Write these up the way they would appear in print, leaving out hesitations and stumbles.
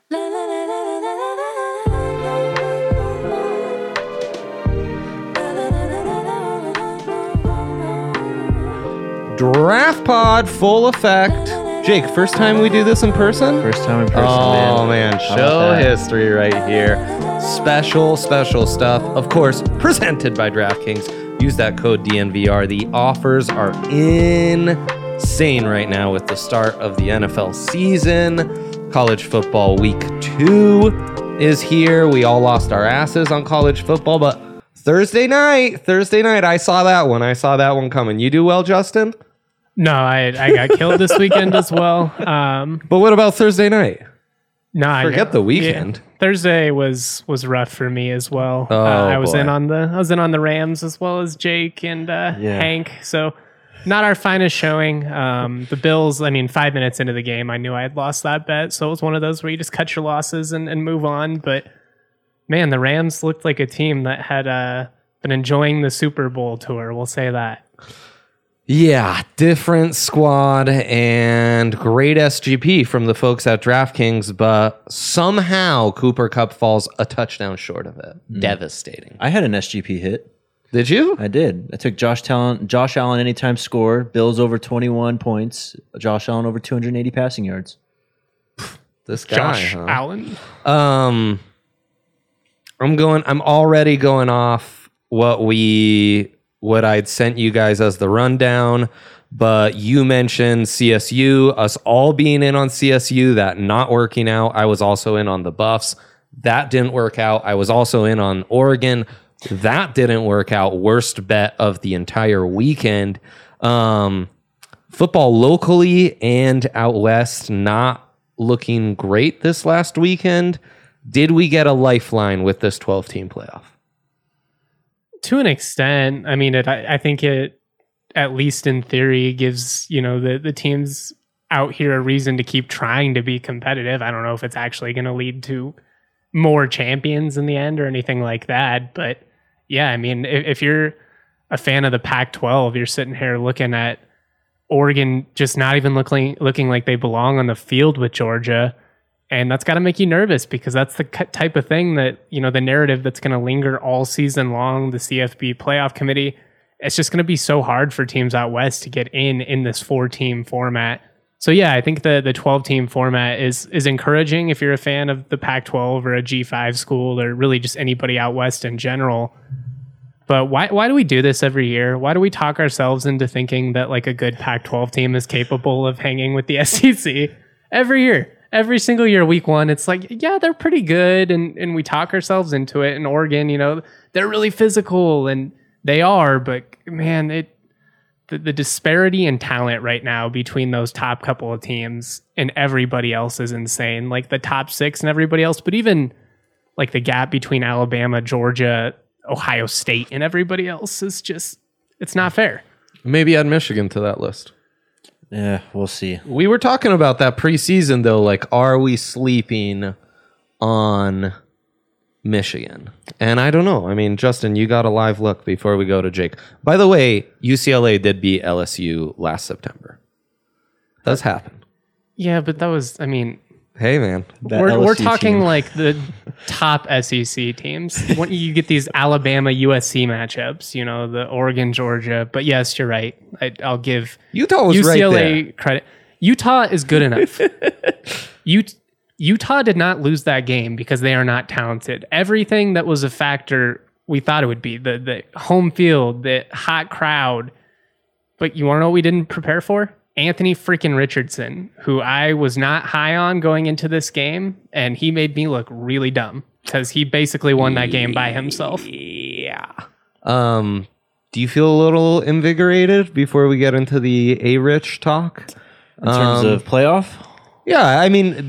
Draft Pod, full effect. Jake, first time we do this in person? First time in person, Oh, man. Show history right here. Special stuff. Of course, presented by DraftKings. Use that code DNVR. The offers are insane right now with the start of the NFL season. College football week 2 is here. We all lost our asses on college football, but Thursday night, I saw that one coming. You do well, Justin? No, I got killed this weekend as well. But what about Thursday night? No, Forget the weekend. Yeah. Thursday was rough for me as well. Oh, I was boy. in on the Rams as well as Jake and Hank. So not our finest showing. The Bills, 5 minutes into the game, I knew I had lost that bet. So it was one of those where you just cut your losses and move on. But man, the Rams looked like a team that had been enjoying the Super Bowl tour. We'll say that. Yeah, different squad and great SGP from the folks at DraftKings, but somehow Cooper Kupp falls a touchdown short of it. Devastating. I had an SGP hit. Did you? I did. I took Josh Allen anytime score, Bills over 21 points, Josh Allen over 280 passing yards. This guy, Josh huh? Allen. I'm already going off what I'd sent you guys as the rundown, but you mentioned CSU, us all being in on CSU, that not working out. I was also in on the Buffs. That didn't work out. I was also in on Oregon. That didn't work out. Worst bet of the entire weekend. Football locally and out west, not looking great this last weekend. Did we get a lifeline with this 12-team playoff? To an extent, I think it, at least in theory, gives the teams out here a reason to keep trying to be competitive. I don't know if it's actually going to lead to more champions in the end or anything like that, but yeah, if you're a fan of the Pac-12, you're sitting here looking at Oregon just not even looking like they belong on the field with Georgia. And that's got to make you nervous because that's the type of thing that, the narrative that's going to linger all season long, the CFB playoff committee, it's just going to be so hard for teams out west to get in this 4-team format. So yeah, I think the 12-team format is encouraging if you're a fan of the Pac-12 or a G5 school or really just anybody out west in general. But why do we do this every year? Why do we talk ourselves into thinking that like a good Pac-12 team is capable of hanging with the SEC every year? Every single year, week 1, it's like, yeah, they're pretty good. And we talk ourselves into it. And Oregon, they're really physical and they are. But man, the disparity in talent right now between those top couple of teams and everybody else is insane. Like the top 6 and everybody else. But even like the gap between Alabama, Georgia, Ohio State and everybody else is just, it's not fair. Maybe add Michigan to that list. Yeah, we'll see. We were talking about that preseason, though. Like, are we sleeping on Michigan? And I don't know. Justin, you got a live look before we go to Jake. By the way, UCLA did beat LSU last September. Does happen. Yeah, but that was, Hey, man. We're talking team. Like the top SEC teams. When you get these Alabama USC matchups, the Oregon Georgia. But yes, you're right. I'll give Utah was UCLA right there. credit. Utah is good enough. Utah did not lose that game because they are not talented. Everything that was a factor we thought it would be, the home field, the hot crowd. But you want to know what we didn't prepare for? Anthony freaking Richardson, who I was not high on going into this game, and he made me look really dumb because he basically won that game by himself. Yeah. Do you feel a little invigorated before we get into the A-Rich talk? In terms of playoff? Yeah,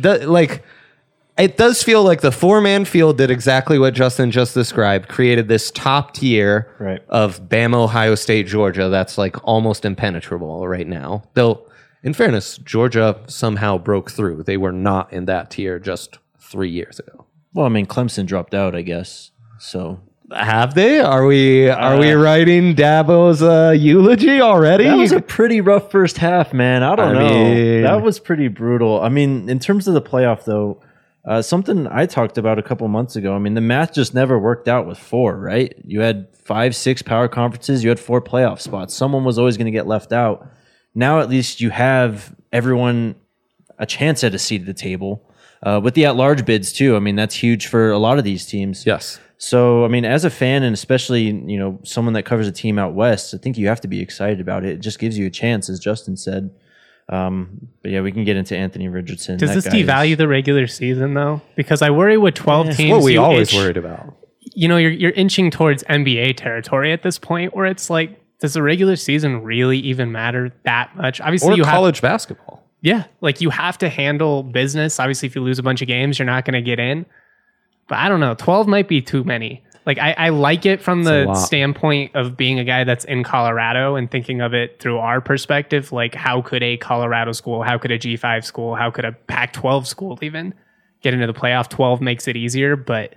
it does feel like the 4-man field did exactly what Justin just described, created this top tier of Bama, Ohio State, Georgia that's like almost impenetrable right now. Though, in fairness, Georgia somehow broke through. They were not in that tier just 3 years ago. Well, Clemson dropped out, I guess. So have they? Are we writing Dabo's eulogy already? That was a pretty rough first half, man. I don't know. That was pretty brutal. In terms of the playoff, though, Something I talked about a couple months ago. I mean, the math just never worked out with 4, right? You had 5, 6 power conferences. You had 4 playoff spots. Someone was always going to get left out. Now at least you have everyone a chance at a seat at the table. With the at-large bids too. I mean, that's huge for a lot of these teams. Yes. So, I mean, as a fan and especially, someone that covers a team out west, I think you have to be excited about it. It just gives you a chance, as Justin said. But yeah, we can get into Anthony Richardson. Does this devalue the regular season though? Because I worry with 12 teams. What we always worried about. You're inching towards NBA territory at this point, where it's like, does the regular season really even matter that much? Obviously, Or college basketball. Yeah, like you have to handle business. Obviously, if you lose a bunch of games, you're not going to get in. But I don't know. 12 might be too many. Like I like it from the standpoint of being a guy that's in Colorado and thinking of it through our perspective. Like, how could a Colorado school, how could a G5 school, how could a Pac-12 school even get into the playoff? 12 makes it easier, but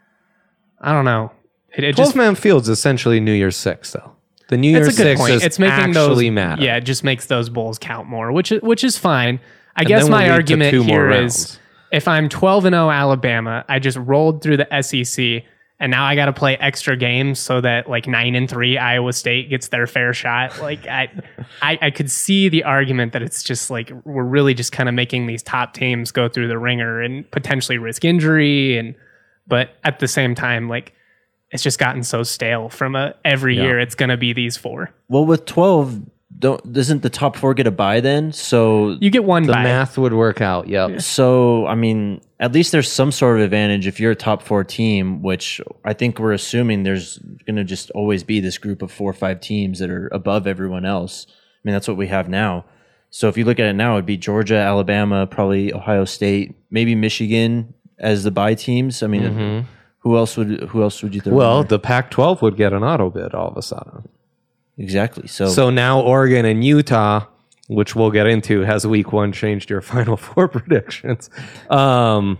I don't know. It 12-man field's essentially New Year's 6, though. The New Year's 6 is it's making actually matter. Yeah, it just makes those bowls count more, which is fine. I guess my argument here is if I'm 12-0 Alabama, I just rolled through the SEC, and now I got to play extra games so that like 9-3 Iowa State gets their fair shot. Like I could see the argument that it's just like we're really just kind of making these top teams go through the ringer and potentially risk injury, but at the same time, like, it's just gotten so stale from every year it's going to be these 4. Well, with 12, doesn't the top 4 get a bye then? So you get one bye. The math would work out, yep. So, I mean, at least there's some sort of advantage if you're a top 4 team, which I think we're assuming there's going to just always be this group of 4 or 5 teams that are above everyone else. I mean, that's what we have now. So if you look at it now, it'd be Georgia, Alabama, probably Ohio State, maybe Michigan as the bye teams. I mean, Who else would you throw? Well, the Pac-12 would get an auto bid all of a sudden. Exactly. So now Oregon and Utah, which we'll get into, has week 1 changed your Final 4 predictions. All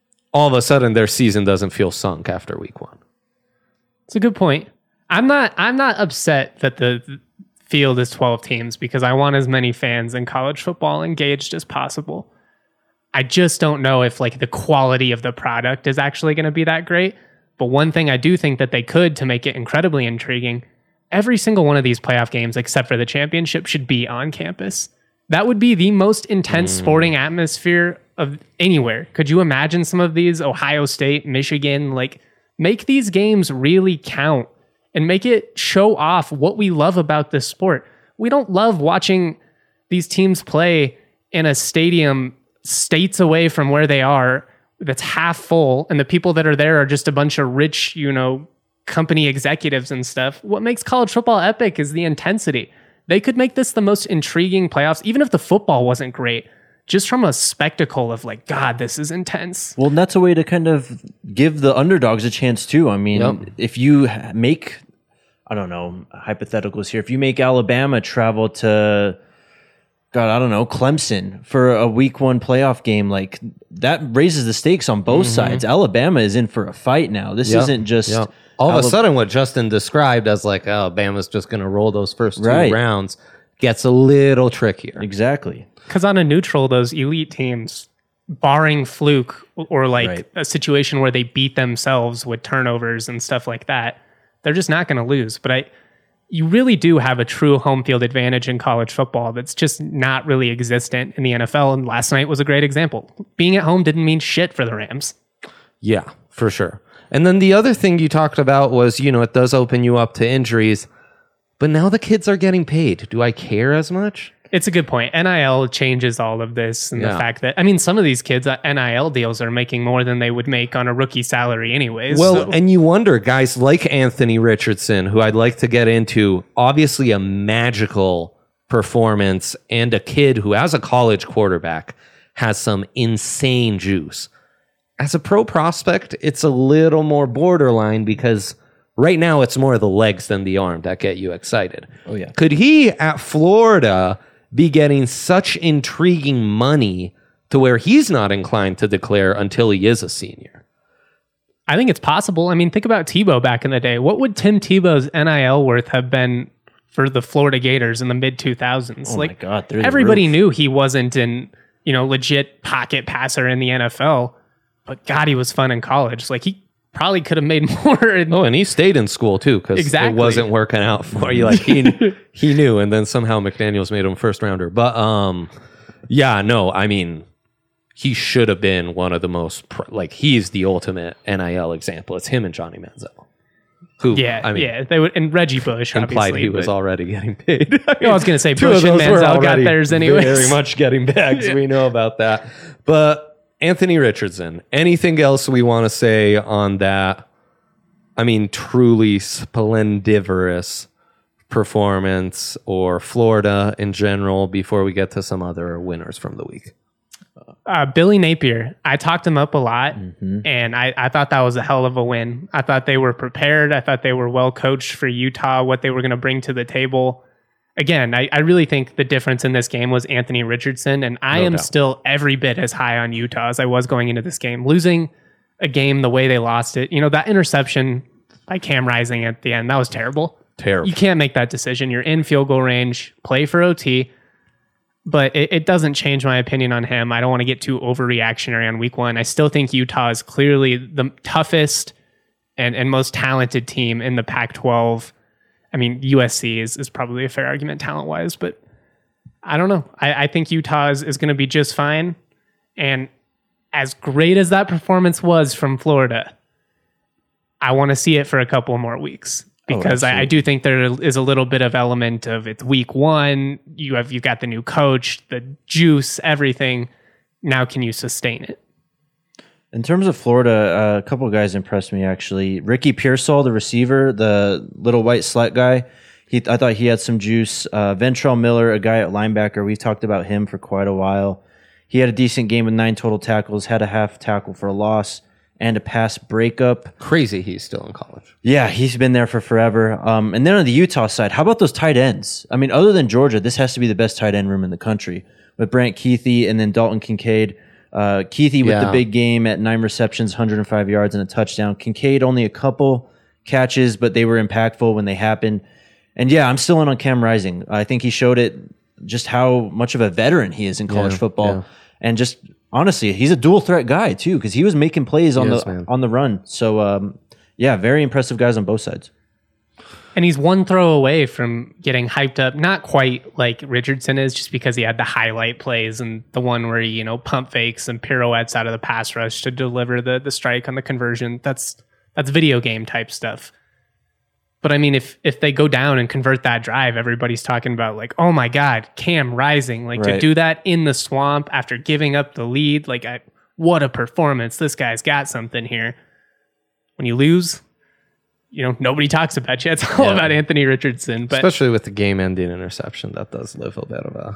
of a sudden, their season doesn't feel sunk after week 1. It's a good point. I'm not upset that the field is 12 teams because I want as many fans in college football engaged as possible. I just don't know if like the quality of the product is actually going to be that great. But one thing I do think that they could to make it incredibly intriguing, every single one of these playoff games, except for the championship, should be on campus. That would be the most intense sporting atmosphere of anywhere. Could you imagine some of these? Ohio State, Michigan, like make these games really count and make it show off what we love about this sport. We don't love watching these teams play in a stadium states away from where they are that's half full, and the people that are there are just a bunch of rich, company executives and stuff. What makes college football epic is the intensity. They could make this the most intriguing playoffs, even if the football wasn't great, just from a spectacle of like, God, this is intense. Well, and that's a way to kind of give the underdogs a chance too. I mean, if you make, I don't know, hypotheticals here, if you make Alabama travel to, God, I don't know, Clemson for a week 1 playoff game, like that raises the stakes on both sides. Alabama is in for a fight now. This isn't just all of a sudden what Justin described as like Alabama's just going to roll those first 2 rounds gets a little trickier. Exactly. Because on a neutral, those elite teams, barring fluke or like a situation where they beat themselves with turnovers and stuff like that, they're just not going to lose. But you really do have a true home field advantage in college football that's just not really existent in the NFL. And last night was a great example. Being at home didn't mean shit for the Rams. Yeah, for sure. And then the other thing you talked about was, it does open you up to injuries, but now the kids are getting paid. Do I care as much? It's a good point. NIL changes all of this, and the fact that, some of these kids, NIL deals are making more than they would make on a rookie salary anyways. Well, and you wonder, guys like Anthony Richardson, who I'd like to get into, obviously a magical performance and a kid who, as a college quarterback, has some insane juice. As a pro prospect, it's a little more borderline because right now it's more the legs than the arm that get you excited. Oh, yeah. Could he, at Florida, be getting such intriguing money to where he's not inclined to declare until he is a senior? I think it's possible. Think about Tebow back in the day. What would Tim Tebow's NIL worth have been for the Florida Gators in the mid-2000s? Oh, my God. Everybody knew he wasn't an legit pocket passer in the NFL. but God, he was fun in college. Like he probably could have made more. And he stayed in school too because Exactly. it wasn't working out for you. Like he knew, and then somehow McDaniels made him first rounder. But yeah, no, I mean, he should have been one of the most he's the ultimate NIL example. It's him and Johnny Manziel. Who, they would, and Reggie Bush implied obviously, he was already getting paid. I was going to say two Bush of and those were Manziel got already theirs anyways. very much getting bags. We know about that. But Anthony Richardson, anything else we want to say on that? I mean, truly splendiferous performance, or Florida in general, before we get to some other winners from the week. Billy Napier, I talked him up a lot, and I thought that was a hell of a win. I thought they were prepared. I thought they were well coached for Utah, what they were going to bring to the table. Again, I really think the difference in this game was Anthony Richardson, and I am still every bit as high on Utah as I was going into this game. Losing a game the way they lost it, that interception by Cam Rising at the end, that was terrible. Terrible. You can't make that decision. You're in field goal range, play for OT. But it doesn't change my opinion on him. I don't want to get too overreactionary on week one. I still think Utah is clearly the toughest and most talented team in the Pac-12. I mean, USC is probably a fair argument talent-wise, but I don't know. I think Utah is going to be just fine. And as great as that performance was from Florida, I want to see it for a couple more weeks. Because I do think there is a little bit of element of it's week one. You've got the new coach, the juice, everything. Now, can you sustain it? In terms of Florida, a couple of guys impressed me actually. Ricky Pearsall, the receiver, the little white slut guy. I thought he had some juice. Ventrell Miller, a guy at linebacker. We've talked about him for quite a while. He had a decent game with 9 total tackles. Had a half tackle for a loss and a pass breakup. Crazy he's still in college. Yeah, he's been there for forever. And then on the Utah side, how about those tight ends? I mean, other than Georgia, this has to be the best tight end room in the country with Brant Kuithe and then Dalton Kincaid. Kuithe with the big game at 9 receptions, 105 yards and a touchdown. Kincaid only a couple catches, but they were impactful when they happened. And yeah, I'm still in on Cam Rising. I think he showed it just how much of a veteran he is in college football. Yeah. And just honestly, he's a dual threat guy too, because he was making plays on the run. So yeah, very impressive guys on both sides. And he's one throw away from getting hyped up, not quite like Richardson is, just because he had the highlight plays and the one where he, pump fakes and pirouettes out of the pass rush to deliver the strike on the conversion. That's video game type stuff. But I mean, if they go down and convert that drive, everybody's talking about like, oh my God, Cam Rising, to do that in the swamp after giving up the lead, what a performance. This guy's got something here. When you lose, nobody talks about you. It's all about Anthony Richardson. But especially with the game-ending interception, that does live a bit of a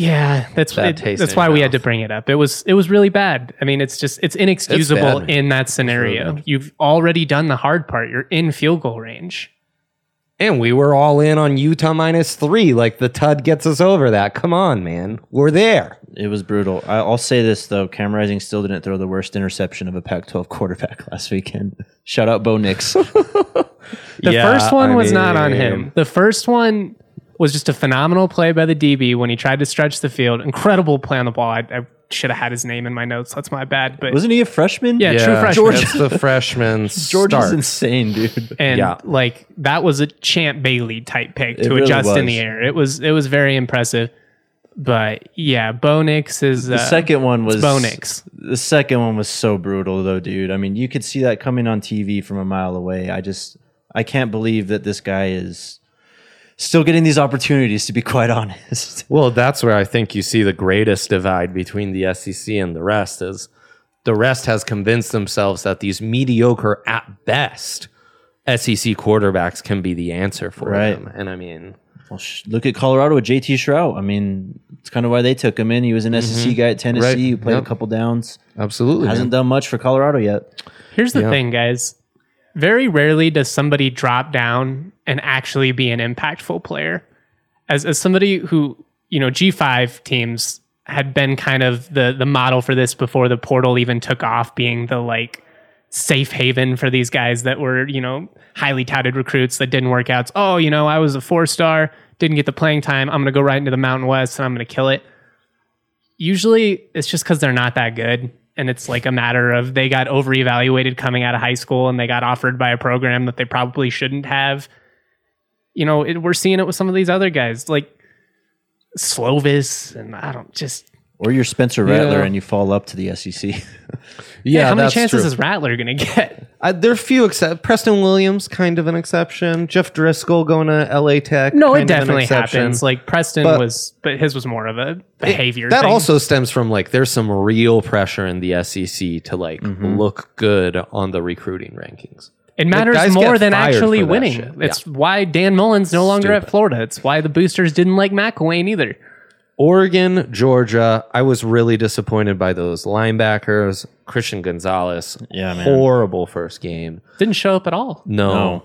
that's why we had to bring it up. It was really bad. I mean, it's inexcusable in that scenario. You've already done the hard part. You're in field goal range. And we were all in on Utah -3. Like the TUD gets us over that. Come on, man. We're there. It was brutal. I'll say this, though. Cam Rising still didn't throw the worst interception of a Pac-12 quarterback last weekend. Shout out Bo Nix. The first one was not on him. The first one was just a phenomenal play by the DB when he tried to stretch the field. Incredible play on the ball. I should have had his name in my notes. That's my bad. But wasn't he a freshman? Yeah, true freshman. That's the freshman Georgia's insane, dude. And that was a Champ Bailey type pick to adjust in the air. It was very impressive. But yeah, Bo Nix is the second one was Bo Nix. The second one was so brutal though, dude. I mean, you could see that coming on TV from a mile away. I can't believe that this guy is still getting these opportunities, to be quite honest. Well, that's where I think you see the greatest divide between the SEC and the rest is the rest has convinced themselves that these mediocre at best SEC quarterbacks can be the answer for them. And I mean, look at Colorado with JT Shrout. I mean, it's kind of why they took him in. He was an SEC guy at Tennessee who played a couple downs. Absolutely. Hasn't done much for Colorado yet. Here's the thing, guys. Very rarely does somebody drop down and actually be an impactful player. As somebody who, G5 teams had been kind of the model for this before the portal even took off, being the safe haven for these guys that were, highly touted recruits that didn't work out. Oh, I was a 4-star, didn't get the playing time. I'm going to go right into the Mountain West and I'm going to kill it. Usually it's just because they're not that good. and it's like a matter of they got over-evaluated coming out of high school and they got offered by a program that they probably shouldn't have. You know, we're seeing it with some of these other guys like Slovis, and Or you're Spencer Rattler and you fall up to the SEC. yeah, how many that's chances true. is Rattler going to get? There are few Preston Williams, kind of an exception. Jeff Driscoll going to LA Tech. No, it kind of an definitely exception. happens. Like Preston But- but his was more of a behavior That thing. also stems from like there's some real pressure in the SEC to like look good on the recruiting rankings. It matters guys more get than fired actually for that winning. shit. It's why Dan Mullen's no longer at Stupid. Florida. It's why the boosters didn't like McElwain either. Oregon, Georgia, I was really disappointed by those linebackers. Christian Gonzalez, Yeah, man. horrible first game. Didn't show up at all. No.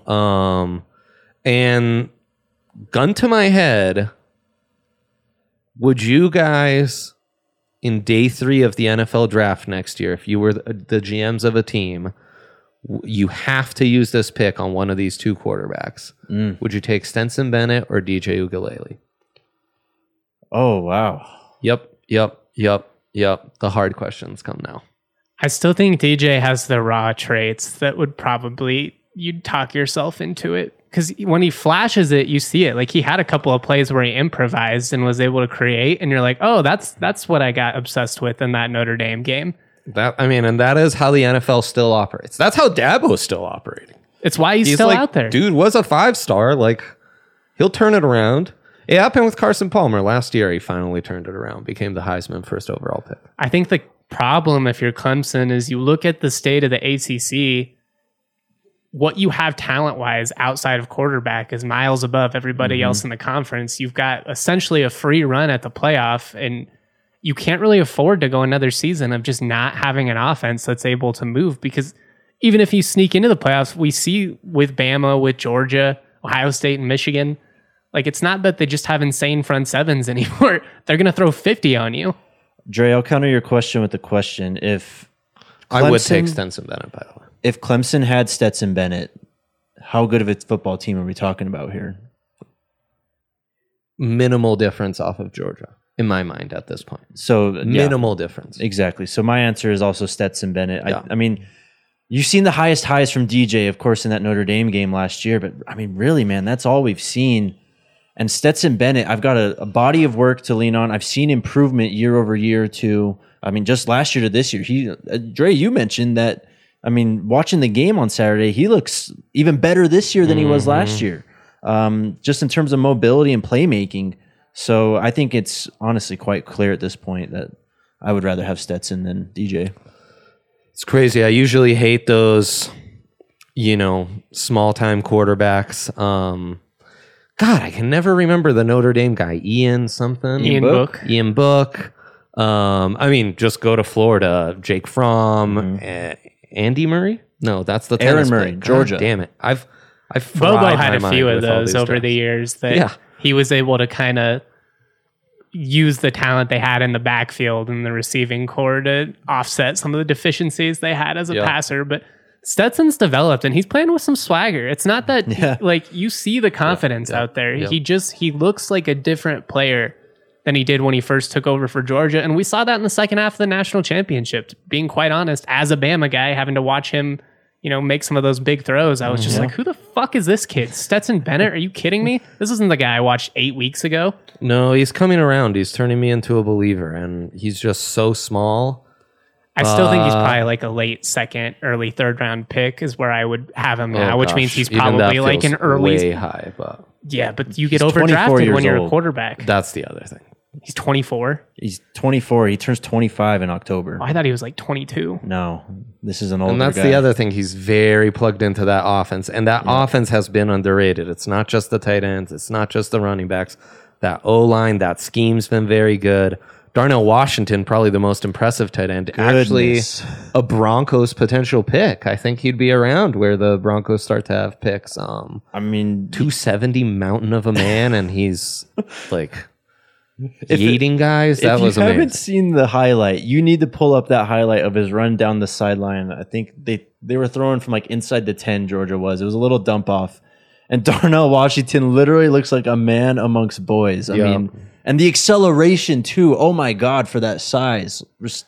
And gun to my head, would you guys in day 3 of the NFL draft next year, if you were the GMs of a team, you have to use this pick on one of these two quarterbacks. Would you take Stetson Bennett or DJ Uiagalelei? Oh, wow. Yep. The hard questions come now. I still think DJ has the raw traits that would probably, you'd talk yourself into it. Because when he flashes it, you see it. Like he had a couple of plays where he improvised and was able to create. And you're like, oh, that's what I got obsessed with in that Notre Dame game. And that is how the NFL still operates. That's how Dabo's still operating. It's why he's still like, out there. Dude was a 5-star. Like, he'll turn it around. It happened with Carson Palmer last year. He finally turned it around, became the Heisman first overall pick. I think the problem if you're Clemson is you look at the state of the ACC, what you have talent-wise outside of quarterback is miles above everybody else in the conference. You've got essentially a free run at the playoff, and you can't really afford to go another season of just not having an offense that's able to move, because even if you sneak into the playoffs, we see with Bama, with Georgia, Ohio State, and Michigan, like it's not that they just have insane front sevens anymore. They're going to throw 50 on you. Dre, I'll counter your question with the question. If I would take Clemson- Stetson Bennett, by the way. If Clemson had Stetson Bennett, how good of a football team are we talking about here? Minimal difference off of Georgia, in my mind, at this point. So yeah, Minimal difference. exactly. So my answer is also Stetson Bennett. Yeah. I mean, you've seen the highest highs from DJ, of course, in that Notre Dame game last year. But I mean, really, man, that's all we've seen. And Stetson Bennett, I've got a body of work to lean on. I've seen improvement year over year too. I mean, just last year to this year. Dre, you mentioned that. I mean, watching the game on Saturday, he looks even better this year than he was last year, just in terms of mobility and playmaking. So I think it's honestly quite clear at this point that I would rather have Stetson than DJ. It's crazy. I usually hate those, small-time quarterbacks. God, I can never remember the Notre Dame guy. Ian something? Ian Book. Ian Book. Just go to Florida. Jake Fromm. Andy Murray? No, that's the Aaron tennis Murray, player. God Georgia. Damn it. I've Bobo fried had my a mind few of with all those these over guys. the years that Yeah. he was able to kind of use the talent they had in the backfield and the receiving core to offset some of the deficiencies they had as a Yeah. passer. But Stetson's developed and he's playing with some swagger. It's not that like you see the confidence out there. yeah. He looks like a different player than he did when he first took over for Georgia. And we saw that in the second half of the national championship. Being quite honest, as a Bama guy, having to watch him, make some of those big throws, I was just like, who the fuck is this kid? Stetson Bennett? Are you kidding me? This isn't the guy I watched 8 weeks ago. No, he's coming around. He's turning me into a believer, and he's just so small. I still think he's probably like a late second, early third round pick is where I would have him now, which means he's Even that probably like feels an early. way high, but Yeah, but you get He's 24 overdrafted years when you're a old. quarterback. that's the other thing. He's 24. He's 24. He turns 25 in October. Oh, I thought he was like 22. No, this is an older And that's guy. the other thing. He's very plugged into that offense. And that offense has been underrated. It's not just the tight ends. It's not just the running backs. That O-line, that scheme's been very good. Darnell Washington, probably the most impressive tight end. Goodness. Actually, a Broncos potential pick. I think he'd be around where the Broncos start to have picks. I mean, 270 mountain of a man, and he's like eating guys. That was if you haven't amazing. seen the highlight, you need to pull up that highlight of his run down the sideline. I think they were throwing from like inside the 10, Georgia was. It was a little dump off. And Darnell Washington literally looks like a man amongst boys. I Yeah. mean, and the acceleration too. Oh my God, for that size. Just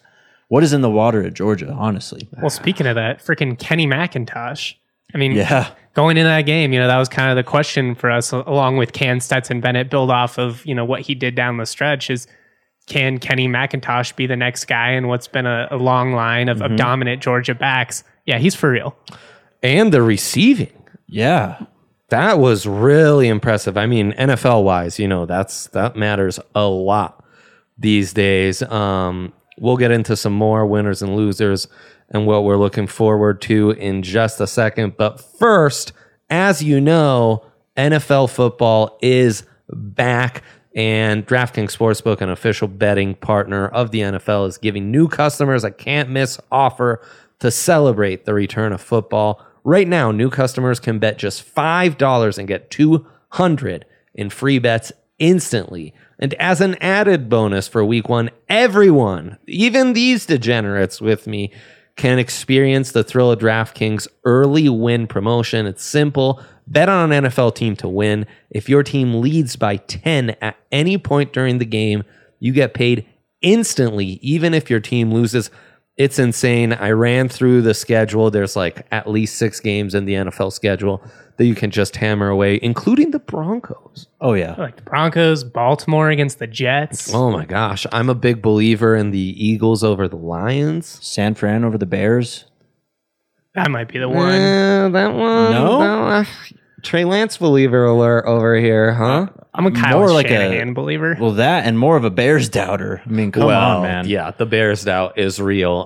what is in the water at Georgia, honestly. Well, speaking of that, freaking Kenny McIntosh. I mean, Yeah. going into that game, that was kind of the question for us, along with can Stetson Bennett build off of, what he did down the stretch is, can Kenny McIntosh be the next guy in what's been a long line of dominant Georgia backs? Yeah, he's for real. And the receiving. Yeah. That was really impressive. I mean, NFL wise, that matters a lot these days. We'll get into some more winners and losers and what we're looking forward to in just a second. But first, as you know, NFL football is back, and DraftKings Sportsbook, an official betting partner of the NFL, is giving new customers a can't-miss offer to celebrate the return of football. Right now, new customers can bet just $5 and get $200 in free bets instantly. And as an added bonus for week 1, everyone, even these degenerates with me, can experience the thrill of DraftKings early win promotion. It's simple. Bet on an NFL team to win. If your team leads by 10 at any point during the game, you get paid instantly, even if your team loses. It's insane. I ran through the schedule. There's like at least 6 games in the NFL schedule that you can just hammer away, including the Broncos. Oh, yeah. Like the Broncos, Baltimore against the Jets. Oh, my gosh. I'm a big believer in the Eagles over the Lions. San Fran over the Bears. That might be the one. That one. No? Trey Lance believer alert over here, huh? I'm a Kyle More like Shanahan believer. Well, that and more of a Bears doubter. I mean, come on, man. Yeah, the Bears doubt is real.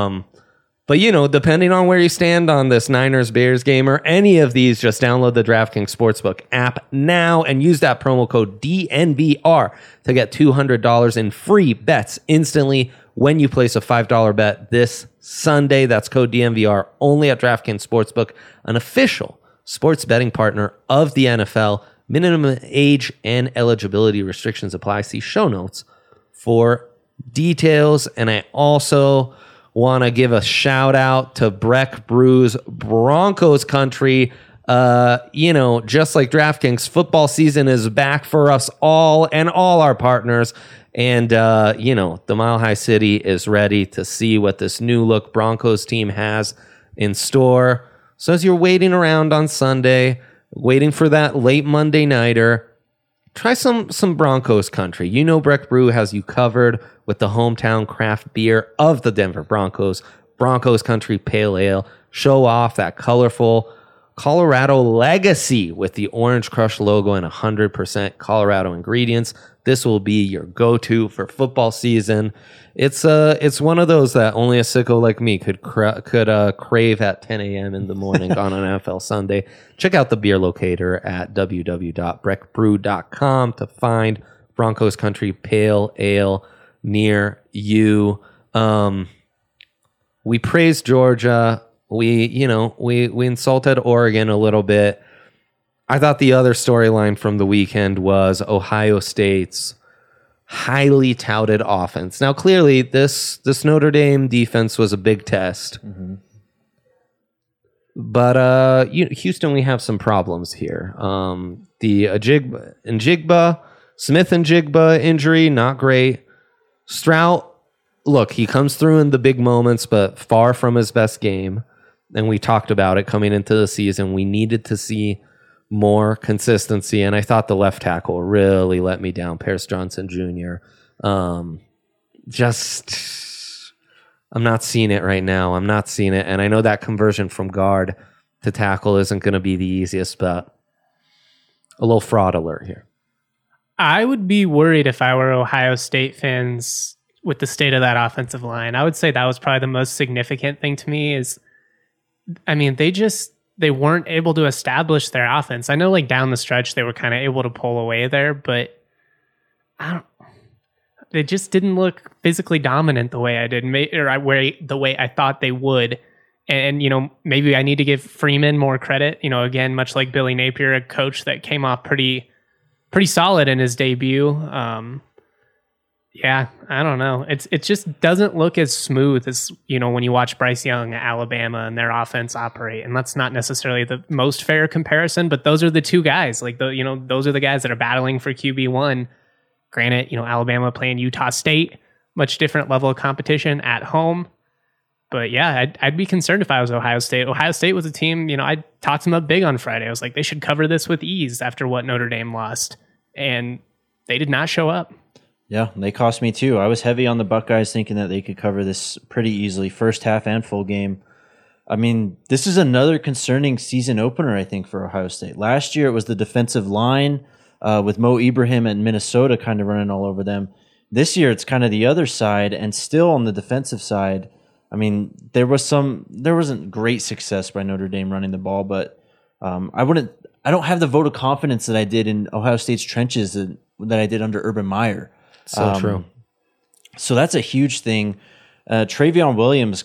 But, depending on where you stand on this Niners-Bears game or any of these, just download the DraftKings Sportsbook app now and use that promo code DNVR to get $200 in free bets instantly when you place a $5 bet this Sunday. That's code DNVR only at DraftKings Sportsbook, an official sports betting partner of the NFL. Minimum age and eligibility restrictions apply. See show notes for details. And I also want to give a shout out to Breck Brew's Broncos Country. Just like DraftKings, football season is back for us all and all our partners. And, the Mile High City is ready to see what this new look Broncos team has in store. So as you're waiting around on Sunday, waiting for that late Monday nighter, try some Broncos Country. Breck Brew has you covered with the hometown craft beer of the Denver Broncos, Broncos Country Pale Ale. Show off that colorful Colorado legacy with the Orange Crush logo and 100% Colorado ingredients. This will be your go-to for football season. It's one of those that only a sicko like me could crave at 10 a.m. in the morning on an NFL Sunday. Check out the beer locator at www.breckbrew.com to find Broncos Country Pale Ale near you. We praised Georgia. We insulted Oregon a little bit. I thought the other storyline from the weekend was Ohio State's highly touted offense. Now, clearly, this Notre Dame defense was a big test. Mm-hmm. But Houston, we have some problems here. The Smith and Jigba injury, not great. Stroud, look, he comes through in the big moments, but far from his best game. And we talked about it coming into the season. We needed to see more consistency, and I thought the left tackle really let me down, Paris Johnson Jr. I'm not seeing it right now. I'm not seeing it, and I know that conversion from guard to tackle isn't going to be the easiest, but a little fraud alert here. I would be worried if I were Ohio State fans with the state of that offensive line. I would say that was probably the most significant thing to me is, they weren't able to establish their offense. I know like down the stretch, they were kind of able to pull away there, but they just didn't look physically dominant the way I did, the way I thought they would. And, maybe I need to give Freeman more credit, again, much like Billy Napier, a coach that came off pretty solid in his debut. Yeah, I don't know. It just doesn't look as smooth as, when you watch Bryce Young at Alabama and their offense operate. And that's not necessarily the most fair comparison, but those are the two guys. Like, those are the guys that are battling for QB1. Granted, Alabama playing Utah State much different level of competition at home. But yeah, I'd be concerned if I was Ohio State. Ohio State was a team, I talked them up big on Friday. I was like, they should cover this with ease after what Notre Dame lost. And they did not show up. Yeah, they cost me too. I was heavy on the Buckeyes thinking that they could cover this pretty easily, first half and full game. I mean, this is another concerning season opener, I think, for Ohio State. Last year, it was the defensive line with Mo Ibrahim and Minnesota kind of running all over them. This year, it's kind of the other side, and still on the defensive side, I mean, there wasn't great success by Notre Dame running the ball, but I don't have the vote of confidence that I did in Ohio State's trenches that I did under Urban Meyer. So true. So that's a huge thing. Travion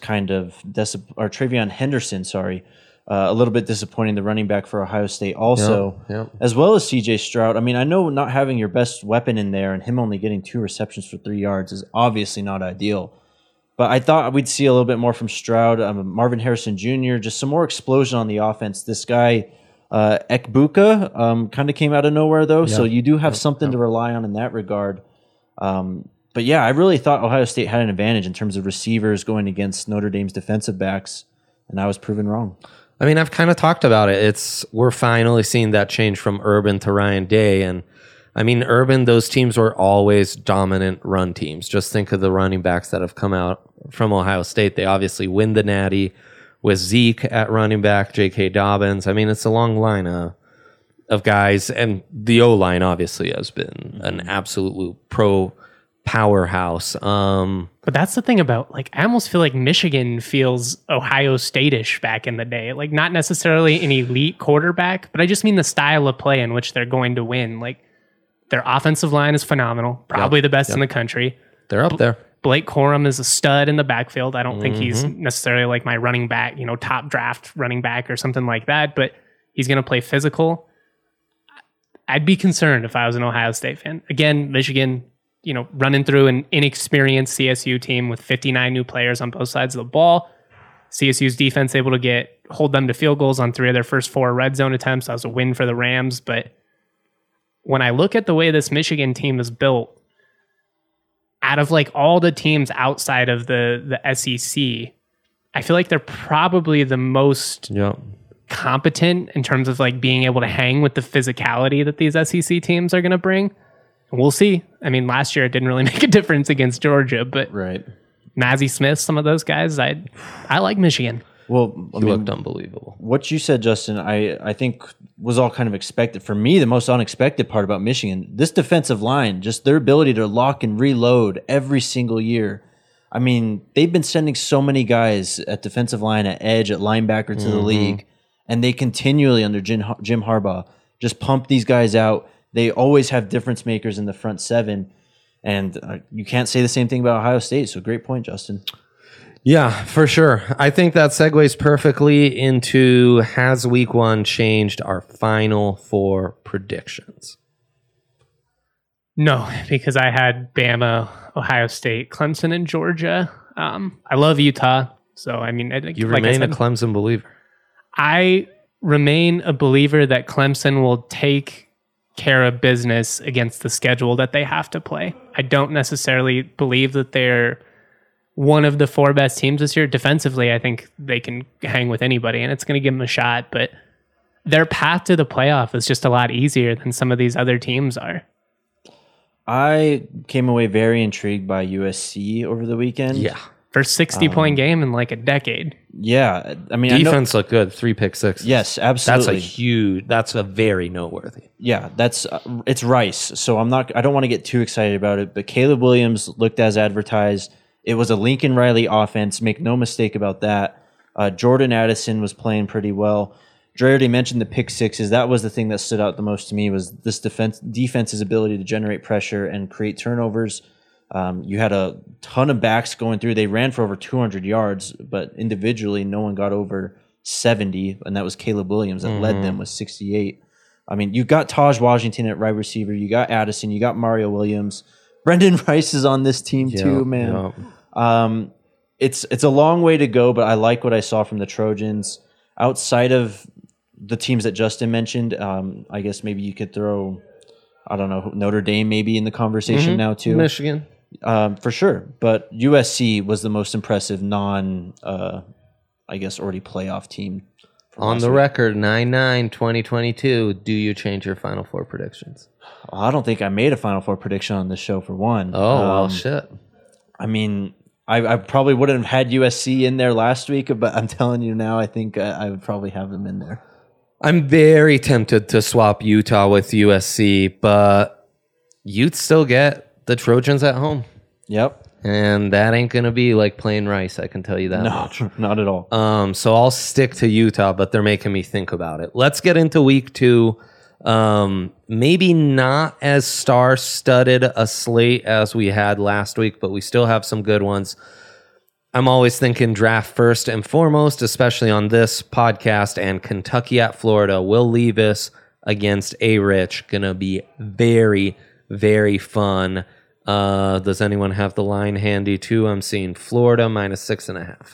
Henderson, a little bit disappointing, the running back for Ohio State also, as well as CJ Stroud. I mean, I know not having your best weapon in there and him only getting 2 receptions for 3 yards is obviously not ideal. But I thought we'd see a little bit more from Stroud, Marvin Harrison Jr., just some more explosion on the offense. This guy, Ekbuka, kind of came out of nowhere, though, so you do have something to rely on in that regard. But yeah, I really thought Ohio State had an advantage in terms of receivers going against Notre Dame's defensive backs, and I was proven wrong. I mean, I've kind of talked about it. We're finally seeing that change from Urban to Ryan Day. And I mean, Urban, those teams were always dominant run teams. Just think of the running backs that have come out from Ohio State. They obviously win the Natty with Zeke at running back, J.K. Dobbins. I mean, it's a long line of guys. And the O-line obviously has been an absolute pro powerhouse. But that's the thing about, I almost feel like Michigan feels Ohio State-ish back in the day. Not necessarily an elite quarterback, but I just mean the style of play in which they're going to win. Their offensive line is phenomenal, probably the best in the country. They're up there. Blake Corum is a stud in the backfield. I don't think he's necessarily my running back, top draft running back or something like that, but he's going to play physical. I'd be concerned if I was an Ohio State fan. Again, Michigan, running through an inexperienced CSU team with 59 new players on both sides of the ball. CSU's defense able to hold them to field goals on 3 of their first 4 red zone attempts. That was a win for the Rams. But when I look at the way this Michigan team is built, out of all the teams outside of the SEC, I feel like they're probably the most competent in terms of being able to hang with the physicality that these SEC teams are going to bring. We'll see. I mean, last year it didn't really make a difference against Georgia, but Mazi Smith, some of those guys, I like Michigan. Well, He looked unbelievable. What you said, Justin, I think was all kind of expected. For me, the most unexpected part about Michigan, this defensive line, just their ability to lock and reload every single year. I mean, they've been sending so many guys at defensive line, at edge, at linebacker to the league, and they continually, under Jim Harbaugh, just pump these guys out. They always have difference makers in the front 7, and you can't say the same thing about Ohio State. So great point, Justin. Yeah, for sure. I think that segues perfectly into, has week 1 changed our Final Four predictions? No, because I had Bama, Ohio State, Clemson, and Georgia. I love Utah. So, I mean, you remain a Clemson believer. I remain a believer that Clemson will take care of business against the schedule that they have to play. I don't necessarily believe that they're one of the 4 best teams this year. Defensively, I think they can hang with anybody, and it's going to give them a shot. But their path to the playoff is just a lot easier than some of these other teams are. I came away very intrigued by USC over the weekend. Yeah. First 60-point game in a decade. Yeah. I mean, defense looked good. 3 pick sixes. Yes, absolutely. That's a very noteworthy. Yeah, it's Rice. So I don't want to get too excited about it, but Caleb Williams looked as advertised. It was a Lincoln Riley offense. Make no mistake about that. Jordan Addison was playing pretty well. Dre already mentioned the pick sixes. That was the thing that stood out the most to me, was this defense's ability to generate pressure and create turnovers. You had a ton of backs going through. They ran for over 200 yards, but individually, no one got over 70, and that was Caleb Williams that led them with 68. I mean, you got Taj Washington at right receiver. You got Addison. You got Mario Williams. Brendan Rice is on this team too, man. It's a long way to go, but I like what I saw from the Trojans. Outside of the teams that Justin mentioned, I guess maybe you could throw, I don't know, Notre Dame maybe in the conversation now too. Michigan. For sure. But USC was the most impressive I guess, already playoff team. On the record, 9-9, 2022. Do you change your Final Four predictions? I don't think I made a Final Four prediction on this show, for one. Oh, well, shit. I mean, I probably wouldn't have had USC in there last week, but I'm telling you now, I think I would probably have them in there. I'm very tempted to swap Utah with USC, but you'd still get the Trojans at home. Yep. And that ain't going to be like playing Rice, I can tell you that much. Not at all. So I'll stick to Utah, but they're making me think about it. Let's get into week 2. Maybe not as star-studded a slate as we had last week, but we still have some good ones. I'm always thinking draft first and foremost, especially on this podcast, and Kentucky at Florida. Will Levis against A-Rich. Going to be very, very fun. Does anyone have the line handy too? I'm seeing Florida -6.5.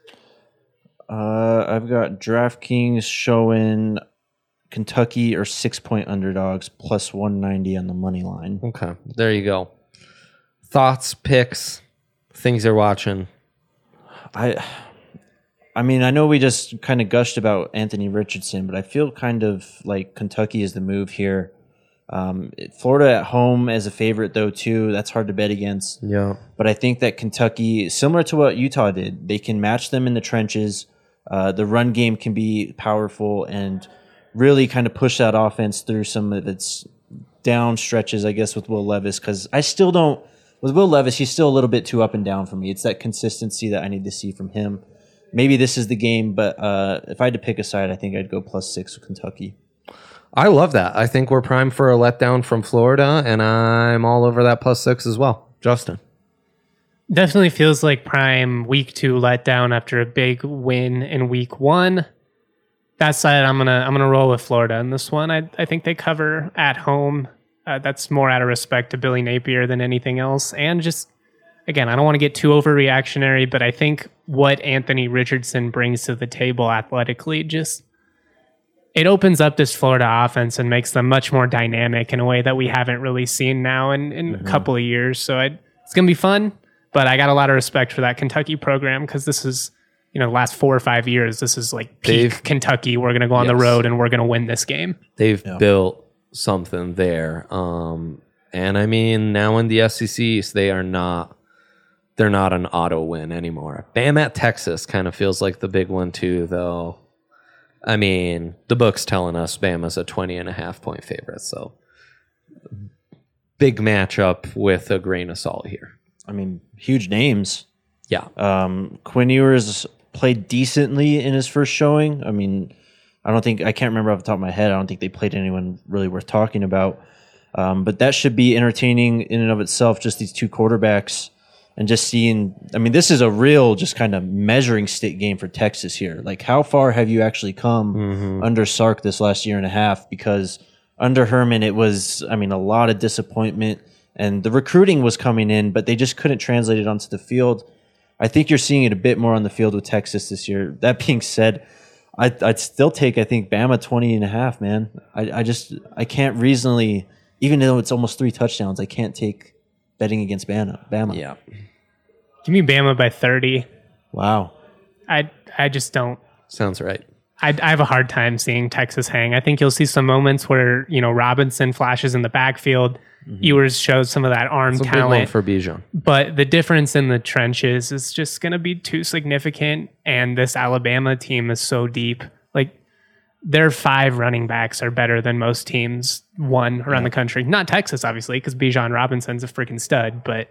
I've got DraftKings showing Kentucky or 6-point underdogs plus 190 on the money line. Okay, there you go. Thoughts, picks, things you're watching. I mean, I know we just kind of gushed about Anthony Richardson, but I feel kind of like Kentucky is the move here. Florida at home as a favorite, though, too. That's hard to bet against. Yeah. But I think that Kentucky, similar to what Utah did, they can match them in the trenches. The run game can be powerful and really kind of push that offense through some of its down stretches, I guess, with Will Levis. Because I still don't, with Will Levis, he's still a little bit too up and down for me. It's that consistency that I need to see from him. Maybe this is the game, but if I had to pick a side, I think I'd go +6 with Kentucky. I love that. I think we're primed for a letdown from Florida, and I'm all over that +6 as well. Justin. Definitely feels like prime week 2 letdown after a big win in week 1. That side, I'm gonna roll with Florida in this one. I think they cover at home. That's more out of respect to Billy Napier than anything else. And just, again, I don't want to get too overreactionary, but I think what Anthony Richardson brings to the table athletically just, it opens up this Florida offense and makes them much more dynamic in a way that we haven't really seen now in a couple of years. So it's going to be fun, but I got a lot of respect for that Kentucky program because this is, the last 4 or 5 years, this is like peak Kentucky. We're going to go on the road and we're going to win this game. They've built something there. And I mean, now in the SEC East, they're not an auto win anymore. Bam at Texas kind of feels like the big one too, though. I mean, the book's telling us Bama's a 20.5 point favorite, so big matchup with a grain of salt here. I mean, huge names. Yeah. Quinn Ewers played decently in his first showing. I mean, I can't remember off the top of my head. I don't think they played anyone really worth talking about. But that should be entertaining in and of itself, just these two quarterbacks. And just seeing, I mean, this is a real just kind of measuring stick game for Texas here. Like, how far have you actually come under Sark this last year and a half? Because under Herman, it was, I mean, a lot of disappointment. And the recruiting was coming in, but they just couldn't translate it onto the field. I think you're seeing it a bit more on the field with Texas this year. That being said, I'd still take, I think, Bama 20.5, man. I can't reasonably, even though it's almost 3 touchdowns, I can't take betting against Bama. Yeah. Give me Bama by 30. Wow. I just don't. Sounds right. I have a hard time seeing Texas hang. I think you'll see some moments where, Robinson flashes in the backfield. Ewers shows some of that arm It's a talent. big one for Bijan. But the difference in the trenches is just going to be too significant. And this Alabama team is so deep. Like, their 5 running backs are better than most teams around the country. Not Texas, obviously, because Bijan Robinson's a freaking stud. But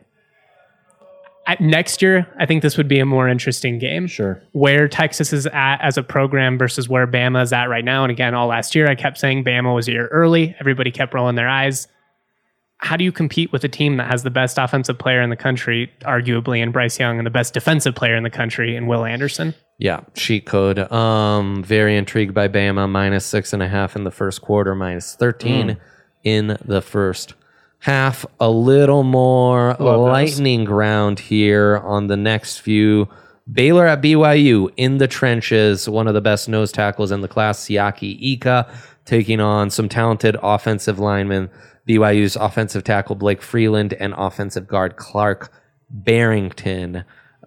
next year, I think this would be a more interesting game. Sure. Where Texas is at as a program versus where Bama is at right now. And again, all last year, I kept saying Bama was a year early. Everybody kept rolling their eyes. How do you compete with a team that has the best offensive player in the country, arguably, in Bryce Young, and the best defensive player in the country in Will Anderson? Yeah, cheat code. Very intrigued by Bama, -6.5 in the first quarter, -13 in the first half. A little more lightning ground here on the next few. Baylor at BYU in the trenches. One of the best nose tackles in the class, Siaki Ika, taking on some talented offensive linemen. BYU's offensive tackle Blake Freeland and offensive guard Clark Barrington.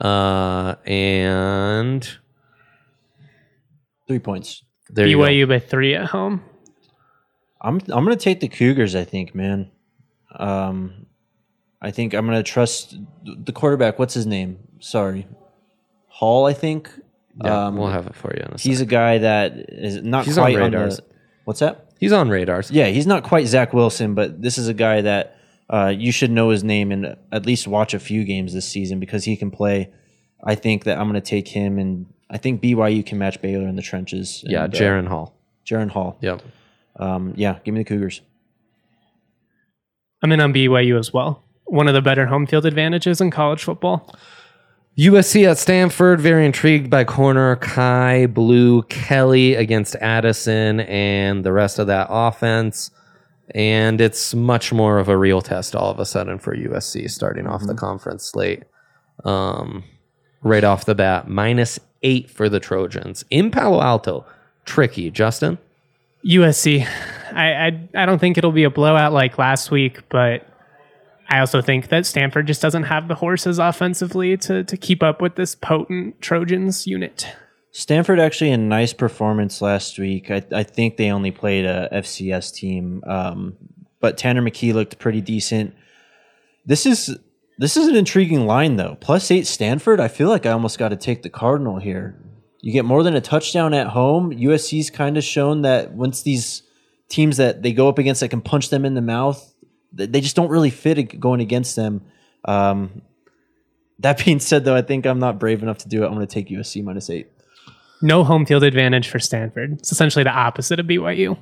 And 3 points. there you go. BYU by 3 at home. I'm going to take the Cougars, I think, man. I think I'm going to trust the quarterback. What's his name? Sorry. Hall, I think. Yeah, we'll have it for you in a He's second. a guy that is not He's quite on on radars. the... What's that? He's on radars. Yeah, he's not quite Zach Wilson, but this is a guy that you should know his name and at least watch a few games this season because he can play. I think that I'm going to take him, and I think BYU can match Baylor in the trenches. Yeah, and, Jaron Hall. Jaron Hall. Yep. Yeah, give me the Cougars. I'm in on BYU as well. One of the better home field advantages in college football. USC at Stanford, very intrigued by corner Kai Blue Kelly against Addison and the rest of that offense. And it's much more of a real test all of a sudden for USC starting off the conference slate. Right off the bat, -8 for the Trojans. In Palo Alto, tricky. Justin? USC. I don't think it'll be a blowout like last week, but I also think that Stanford just doesn't have the horses offensively to keep up with this potent Trojans unit. Stanford actually a nice performance last week. I think they only played a FCS team, but Tanner McKee looked pretty decent. This is an intriguing line though. +8 Stanford. I feel like I almost got to take the Cardinal here. You get more than a touchdown at home. USC's kind of shown that once these teams that they go up against that can punch them in the mouth, they just don't really fit going against them. That being said, though, I think I'm not brave enough to do it. I'm going to take USC -8. No home field advantage for Stanford. It's essentially the opposite of BYU.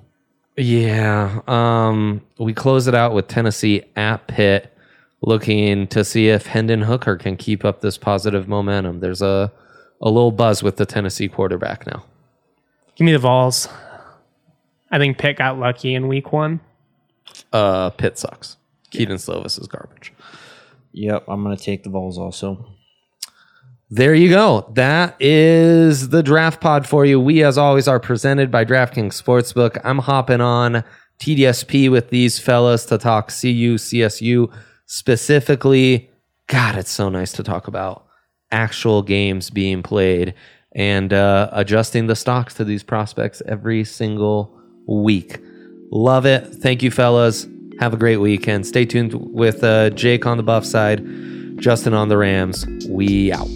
Yeah. We close it out with Tennessee at Pitt, looking to see if Hendon Hooker can keep up this positive momentum. There's a little buzz with the Tennessee quarterback now. Give me the Vols. I think Pitt got lucky in week 1. Pitt sucks. Keaton Slovis is garbage. Yep, I'm going to take the Vols also. There you go. That is the draft pod for you. We, as always, are presented by DraftKings Sportsbook. I'm hopping on TDSP with these fellas to talk CU, CSU specifically. God, it's so nice to talk about actual games being played and adjusting the stocks to these prospects every single week. Love it. Thank you, fellas. Have a great weekend. Stay tuned with Jake on the Buff side, Justin on the Rams. We out.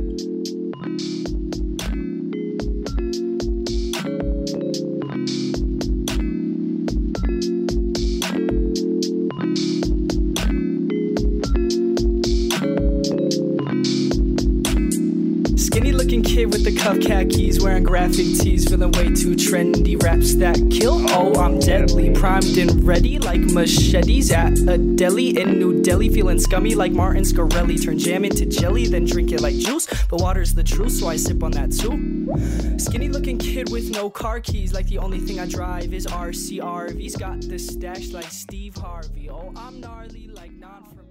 Skinny looking kid with the cuff khakis, wearing graphic tees, feeling way too trendy. Raps that kill, oh I'm deadly, primed and ready like machetes at a deli in New Delhi. Feeling scummy like Martin Scarelli, turn jam into jelly, then drink it like juice. But water's the truth, so I sip on that too. Skinny looking kid with no car keys, like the only thing I drive is RCRV's. Got the stash like Steve Harvey, oh I'm gnarly like non from